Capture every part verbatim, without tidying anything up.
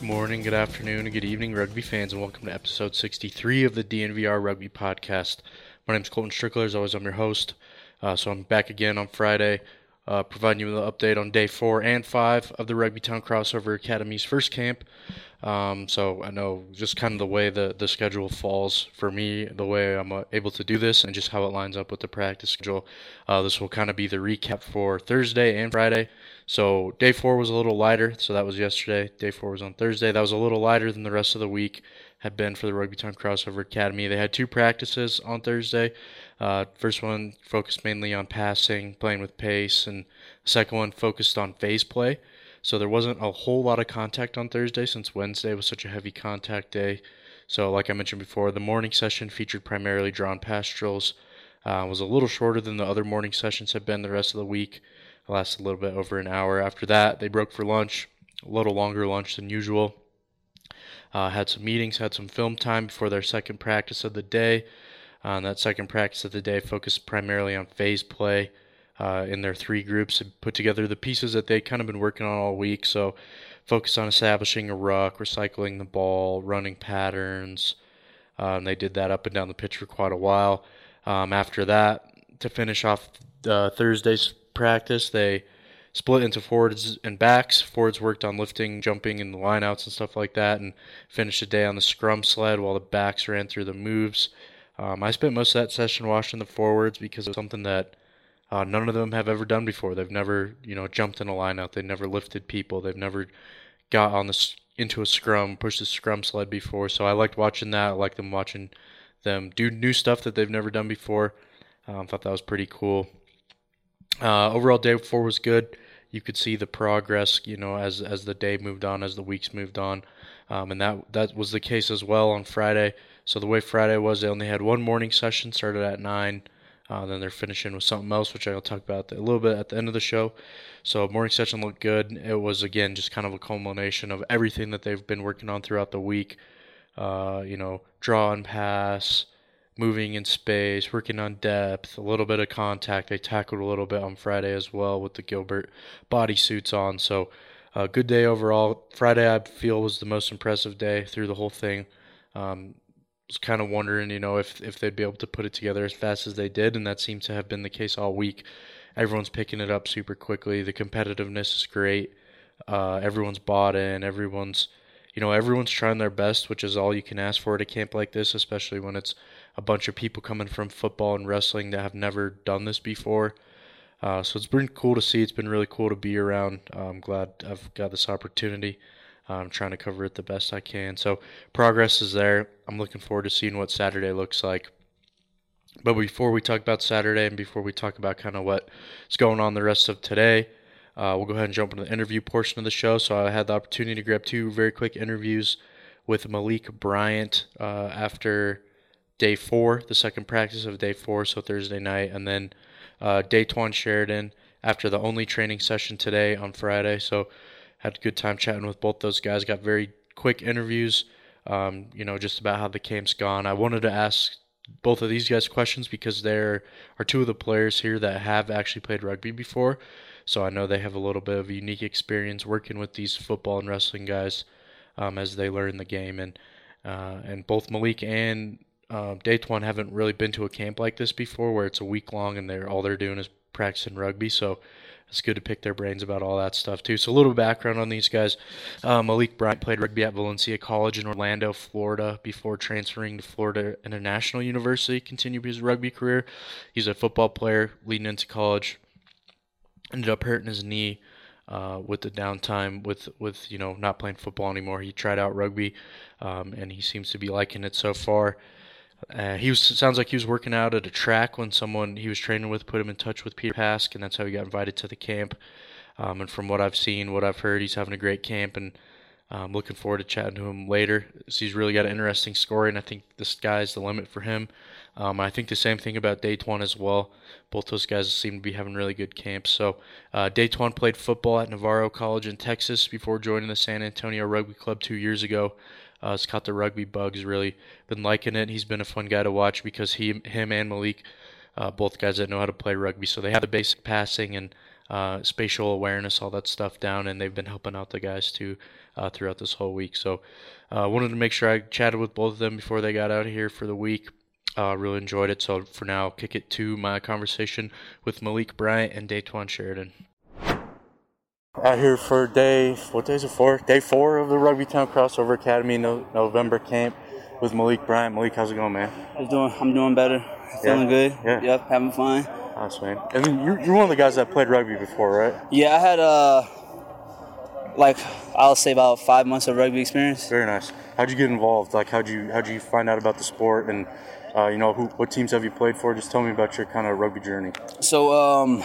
morning, good afternoon, and good evening, rugby fans, and welcome to episode sixty-three of the D N V R Rugby Podcast. My name is Colton Strickler. As always, I'm your host. Uh, so I'm back again on Friday, uh, providing you with an update on day four and five of the Rugby Town Crossover Academy's first camp. Um, so I know just kind of the way the, the schedule falls for me, the way I'm uh, able to do this, and just how it lines up with the practice schedule. Uh, this will kind of be the recap for Thursday and Friday. So day four was a little lighter, so that was yesterday. Day four was on Thursday. That was a little lighter than the rest of the week had been for the Rugby Town Crossover Academy. They had two practices on Thursday. Uh, first one focused mainly on passing, playing with pace, and the second one focused on phase play. So there wasn't a whole lot of contact on Thursday since Wednesday was such a heavy contact day. So like I mentioned before, the morning session featured primarily drawn pass drills. Uh, was a little shorter than the other morning sessions have been the rest of the week. It lasted a little bit over an hour. After that, they broke for lunch, a little longer lunch than usual. Uh, had some meetings, had some film time before their second practice of the day. Uh, and that second practice of the day focused primarily on phase play uh, in their three groups and put together the pieces that they kind of been working on all week. So focused on establishing a ruck, recycling the ball, running patterns. Uh, and they did that up and down the pitch for quite a while. Um, after that, to finish off uh, Thursday's practice, they split into forwards and backs. Forwards worked on lifting, jumping, and the lineouts and stuff like that, and finished the day on the scrum sled while the backs ran through the moves. Um, I spent most of that session watching the forwards because it was something that uh, none of them have ever done before. They've never, you know, jumped in a lineout. They've never lifted people. They've never got on the into a scrum, pushed the scrum sled before. So I liked watching that. I liked them watching them do new stuff that they've never done before. Um, thought that was pretty cool. Uh, overall, day four was good. You could see the progress, you know, as as the day moved on, as the weeks moved on, um, and that that was the case as well on Friday. So the way Friday was, they only had one morning session, started at nine. Uh, then they're finishing with something else, which I'll talk about a little bit at the end of the show. So morning session looked good. It was, again, just kind of a culmination of everything that they've been working on throughout the week. Uh, you know, draw and pass, moving in space, working on depth, a little bit of contact. They tackled a little bit on Friday as well with the Gilbert bodysuits on. So a uh, good day overall. Friday, I feel, was the most impressive day through the whole thing. Um, was kind of wondering, you know, if, if they'd be able to put it together as fast as they did, and that seems to have been the case all week. Everyone's picking it up super quickly. The competitiveness is great. Uh, everyone's bought in. Everyone's, you know, everyone's trying their best, which is all you can ask for at a camp like this, especially when it's a bunch of people coming from football and wrestling that have never done this before. Uh, so it's been cool to see. It's been really cool to be around. Uh, I'm glad I've got this opportunity. I'm trying to cover it the best I can. So progress is there. I'm looking forward to seeing what Saturday looks like. But before we talk about Saturday and before we talk about kind of what's going on the rest of today, uh, we'll go ahead and jump into the interview portion of the show. So I had the opportunity to grab two very quick interviews with Malik Bryant uh, after day four, the second practice of day four, so Thursday night, and then uh, Daytwan Sheridan after the only training session today on Friday. So had a good time chatting with both those guys. Got very quick interviews, um, you know, just about how the camp's gone. I wanted to ask both of these guys questions because there are two of the players here that have actually played rugby before. So I know they have a little bit of a unique experience working with these football and wrestling guys um, as they learn the game. And uh, and both Malik and uh, Daytwan haven't really been to a camp like this before where it's a week long and they're all they're doing is practicing rugby. So it's good to pick their brains about all that stuff, too. So a little background on these guys. Uh, Malik Bryant played rugby at Valencia College in Orlando, Florida, before transferring to Florida International University, continued his rugby career. He's a football player leading into college. Ended up hurting his knee uh, with the downtime, with, with you know not playing football anymore. He tried out rugby, um, and he seems to be liking it so far. Uh, he was sounds like he was working out at a track when someone he was training with put him in touch with Peter Pask, and that's how he got invited to the camp. Um, and from what I've seen, what I've heard, he's having a great camp, and I'm looking forward to chatting to him later. So he's really got an interesting story, and I think the sky's the limit for him. Um, I think the same thing about Daytwan as well. Both those guys seem to be having really good camps. So uh, Daytwan played football at Navarro College in Texas before joining the San Antonio Rugby Club two years ago. Uh, has caught the rugby bug. He's really been liking it. He's been a fun guy to watch because he, him and Malik, uh, both guys that know how to play rugby. So they have the basic passing and uh, spatial awareness, all that stuff down, and they've been helping out the guys too uh, throughout this whole week. So I uh, wanted to make sure I chatted with both of them before they got out of here for the week. Uh, really enjoyed it. So for now, I'll kick it to my conversation with Malik Bryant and Daytwan Sheridan. Out here for day, what day is it for? Day four of the Rugby Town Crossover Academy no, November camp with Malik Bryant. Malik, how's it going, man? I'm doing, I'm doing better. Feeling yeah. good. Yeah. Yep, having fun. Nice, man. And then you're, you're one of the guys that played rugby before, right? Yeah, I had, uh, like, I'll say about five months of rugby experience. Very nice. How'd you get involved? Like, how'd you how'd you find out about the sport? And, uh, you know, who what teams have you played for? Just tell me about your kind of rugby journey. So, um...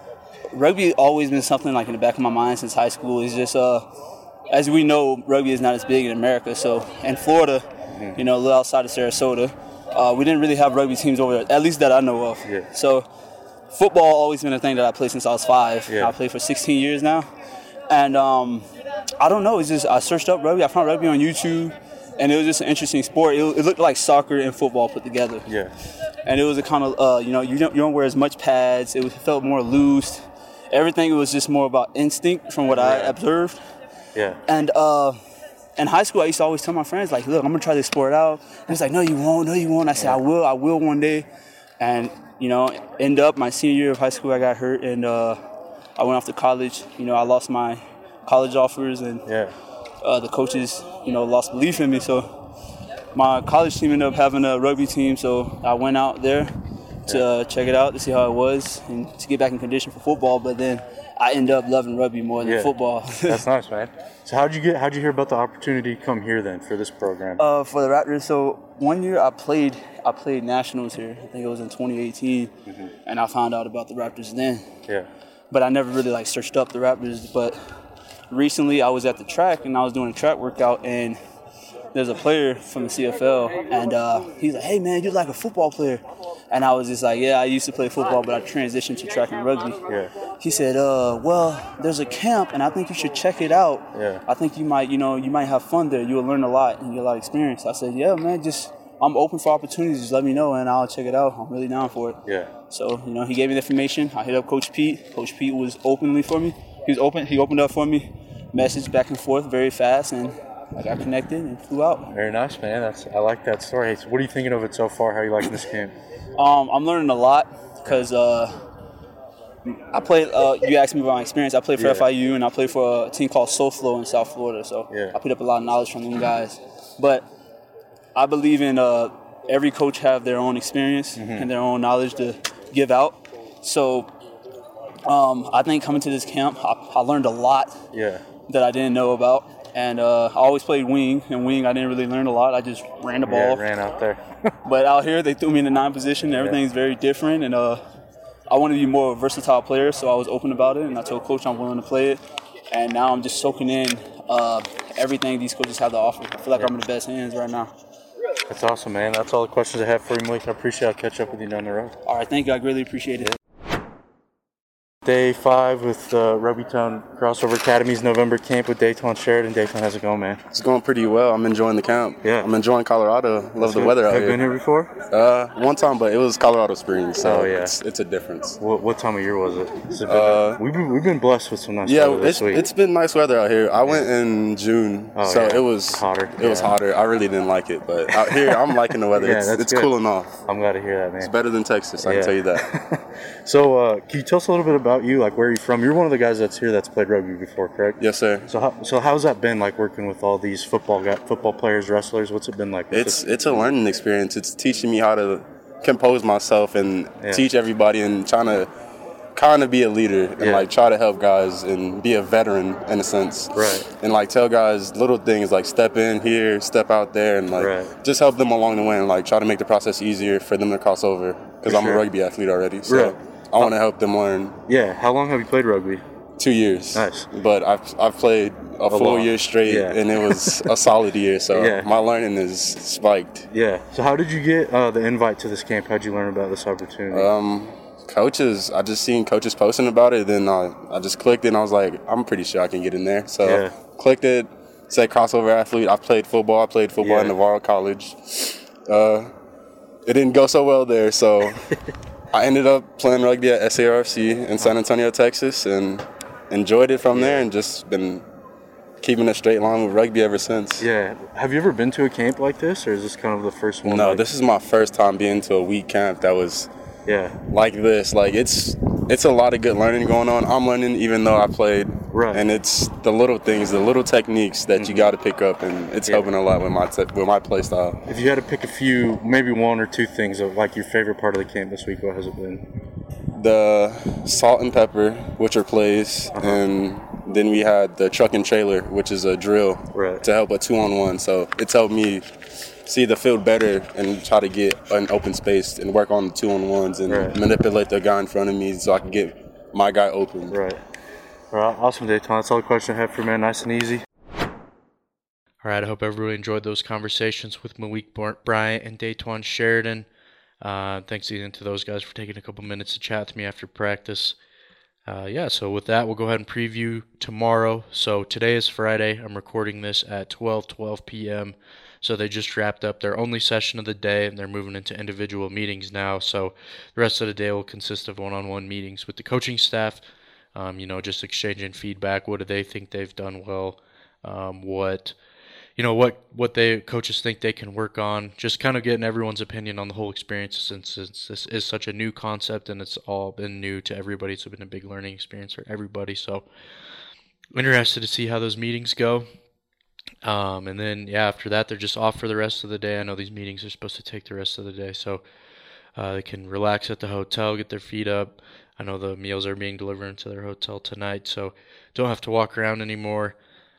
rugby always been something like in the back of my mind since high school. It's just, uh, as we know, rugby is not as big in America. So in Florida, mm-hmm. you know, a little outside of Sarasota, uh, we didn't really have rugby teams over there, at least that I know of. Yeah. So football always been a thing that I played since I was five. Yeah. I played for sixteen years now. And um, I don't know, it's just I searched up rugby. I found rugby on YouTube, and it was just an interesting sport. It, it looked like soccer and football put together. Yeah. And it was a kind of, uh, you know, you don't, you don't wear as much pads. It, was, it felt more loose. Everything was just more about instinct from what right. I observed. Yeah. And uh, in high school, I used to always tell my friends, like, look, I'm going to try this sport out. And it's like, no, you won't. No, you won't. I said, yeah. I will. I will one day. And, you know, end up my senior year of high school, I got hurt. And uh, I went off to college. You know, I lost my college offers. And yeah. uh, the coaches, you know, lost belief in me. So my college team ended up having a rugby team. So I went out there to uh, check it out, to see how it was, and to get back in condition for football. But then I ended up loving rugby more than yeah. football. That's nice, man. So how'd you get? How'd you hear about the opportunity to come here then for this program? Uh, for the Raptors. So one year I played, I played nationals here. I think it was in twenty eighteen, mm-hmm. and I found out about the Raptors then. Yeah. But I never really like searched up the Raptors. But recently I was at the track and I was doing a track workout, and there's a player from the C F L, and uh, he's like, "Hey man, you're like a football player." And I was just like, yeah, I used to play football, but I transitioned to track and rugby. Yeah. He said, uh, well, there's a camp, and I think you should check it out. Yeah. I think you might, you know, you might have fun there. You'll learn a lot and get a lot of experience. I said, yeah, man, just I'm open for opportunities. Just let me know, and I'll check it out. I'm really down for it. Yeah. So, you know, he gave me the information. I hit up Coach Pete. Coach Pete was openly for me. He was open. He opened up for me. Message back and forth very fast, and I got connected and flew out. Very nice, man. That's I like that story. So what are you thinking of it so far? How are you liking this camp? Um, I'm learning a lot because uh, I played, uh, you asked me about my experience. I played for yeah. F I U, and I played for a team called SoFlo in South Florida. So yeah. I picked up a lot of knowledge from them guys. But I believe in uh, every coach have their own experience mm-hmm. and their own knowledge to give out. So um, I think coming to this camp, I, I learned a lot yeah. that I didn't know about. And uh, I always played wing, and wing I didn't really learn a lot. I just ran the ball. Yeah, ran out there. But out here, they threw me in the nine position. Everything's yeah. very different, and uh, I wanted to be more of a versatile player, so I was open about it, and I told Coach I'm willing to play it. And now I'm just soaking in uh, everything these coaches have to offer. I feel like yeah. I'm in the best hands right now. That's awesome, man. That's all the questions I have for you, Malik. I appreciate it. I'll catch up with you down the road. All right, thank you. I greatly appreciate it. Day five with uh, Rugby Town Crossover Academy's November camp with Daytwan Sheridan. Daytwan, how's it going, man? It's going pretty well. I'm enjoying the camp. Yeah. I'm enjoying Colorado. Love That's the good. weather out have here. Have you been here before? Uh, one time, but it was Colorado Springs, so oh, yeah. it's, it's a difference. What, what time of year was it? Has it been, uh, we've, been, we've been blessed with some nice yeah, weather this week. Yeah, it's been nice weather out here. I went in June, oh, so yeah. it was hotter. It yeah. was hotter. I really didn't like it, but out here, I'm liking the weather. yeah, it's that's it's good. cooling off. I'm glad to hear that, man. It's better than Texas, I yeah. can tell you that. So, uh, can you tell us a little bit about you? Like, where are you from? You're one of the guys that's here that's played rugby before, correct? Yes, sir. So, how, so how's that been, like, working with all these football guy, football players, wrestlers? What's it been like? It's it's a learning experience. It's teaching me how to compose myself and yeah. teach everybody and trying to kind of be a leader and, yeah. like, try to help guys and be a veteran in a sense. Right. And, like, tell guys little things like step in here, step out there, and, like, right. just help them along the way and, like, try to make the process easier for them to cross over because I'm sure. a rugby athlete already. So right. I want to help them learn. Yeah. How long have you played rugby? Two years. Nice. But I've I've played a, a full long. year straight, yeah. and it was a solid year. So yeah. my learning is spiked. Yeah. So how did you get uh, the invite to this camp? How'd you learn about this opportunity? Um, coaches. I just seen coaches posting about it. Then I, I just clicked it, and I was like, I'm pretty sure I can get in there. So yeah. clicked it. Said crossover athlete. I played football. I played football yeah. in Navarro College. Uh, it didn't go so well there. So I ended up playing rugby at S A R F C in San Antonio, Texas, and enjoyed it from there and just been keeping a straight line with rugby ever since. Yeah. Have you ever been to a camp like this, or is this kind of the first one? No, like- this is my first time being to a week camp that was yeah. like this. Like, it's it's a lot of good learning going on. I'm learning even though I played. Right. And it's the little things, the little techniques that mm-hmm. you got to pick up, and it's yeah. helping a lot with my te- with my play style. If you had to pick a few, maybe one or two things of like your favorite part of the camp this week, what has it been? The salt and pepper, which are plays, uh-huh. and then we had the truck and trailer, which is a drill right. to help a two-on-one. So it's helped me see the field better and try to get an open space and work on the two-on-ones and right. manipulate the guy in front of me so I can get my guy open. Right. All right, awesome, Dayton. That's all the question I have for you, man. Nice and easy. All right, I hope everyone enjoyed those conversations with Malik Bryant and Dayton Sheridan. Uh, thanks again to those guys for taking a couple minutes to chat with me after practice. Uh, yeah, so with that, we'll go ahead and preview tomorrow. So today is Friday. I'm recording this at twelve twelve p.m. So they just wrapped up their only session of the day, and they're moving into individual meetings now. So the rest of the day will consist of one-on-one meetings with the coaching staff. Um, you know, just exchanging feedback. What do they think they've done well? Um, what, you know, what what they coaches think they can work on. Just kind of getting everyone's opinion on the whole experience, since, since this is such a new concept and it's all been new to everybody. It's been a big learning experience for everybody. So, interested to see how those meetings go. Um, and then yeah, after that, they're just off for the rest of the day. I know these meetings are supposed to take the rest of the day, so uh, they can relax at the hotel, get their feet up. I know the meals are being delivered to their hotel tonight, so don't have to walk around anymore.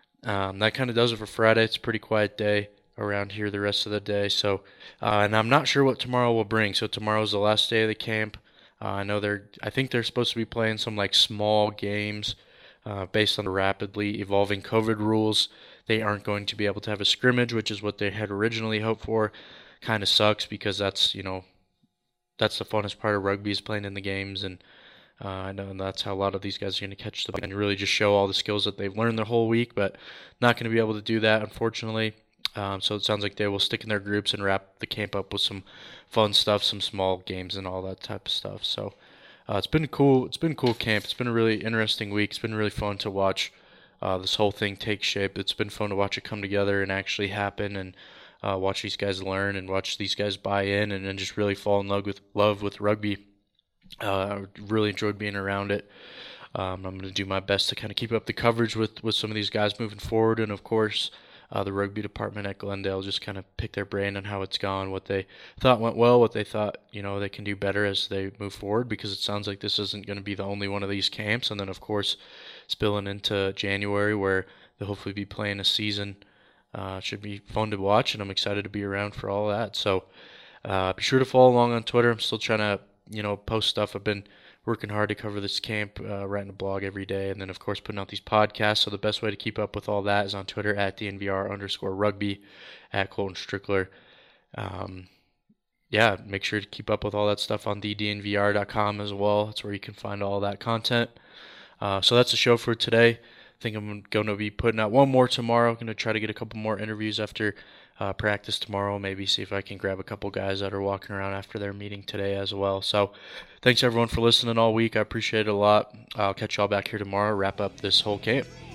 Um, that kind of does it for Friday. It's a pretty quiet day around here the rest of the day. So, uh, and I'm not sure what tomorrow will bring. So tomorrow's the last day of the camp. Uh, I know they're. I think they're supposed to be playing some like small games uh, based on the rapidly evolving COVID rules. They aren't going to be able to have a scrimmage, which is what they had originally hoped for. Kind of sucks because that's you know that's the funnest part of rugby is playing in the games and. Uh, I know that's how a lot of these guys are going to catch the ball and really just show all the skills that they've learned their whole week, but not going to be able to do that, unfortunately. Um, so it sounds like they will stick in their groups and wrap the camp up with some fun stuff, some small games and all that type of stuff. So uh, it's been cool. It's been a cool camp. It's been a really interesting week. It's been really fun to watch uh, this whole thing take shape. It's been fun to watch it come together and actually happen, and uh, watch these guys learn and watch these guys buy in and then just really fall in love with love with rugby. Uh, I really enjoyed being around it. Um, I'm going to do my best to kind of keep up the coverage with, with some of these guys moving forward. And, of course, uh, the rugby department at Glendale, just kind of pick their brain on how it's gone, what they thought went well, what they thought, you know, they can do better as they move forward, because it sounds like this isn't going to be the only one of these camps. And then, of course, spilling into January where they'll hopefully be playing a season. Uh, should be fun to watch, and I'm excited to be around for all that. So uh, be sure to follow along on Twitter. I'm still trying to you know, post stuff. I've been working hard to cover this camp, uh, writing a blog every day, and then, of course, putting out these podcasts. So the best way to keep up with all that is on Twitter at D N V R underscore rugby, at Colton Strickler. Um, yeah, make sure to keep up with all that stuff on the D N V R dot com as well. That's where you can find all that content. Uh, so that's the show for today. I think I'm going to be putting out one more tomorrow. I'm going to try to get a couple more interviews after Uh, practice tomorrow, maybe see if I can grab a couple guys that are walking around after their meeting today as well. So thanks everyone for listening all week. I appreciate it a lot. I'll catch y'all back here tomorrow, wrap up this whole camp.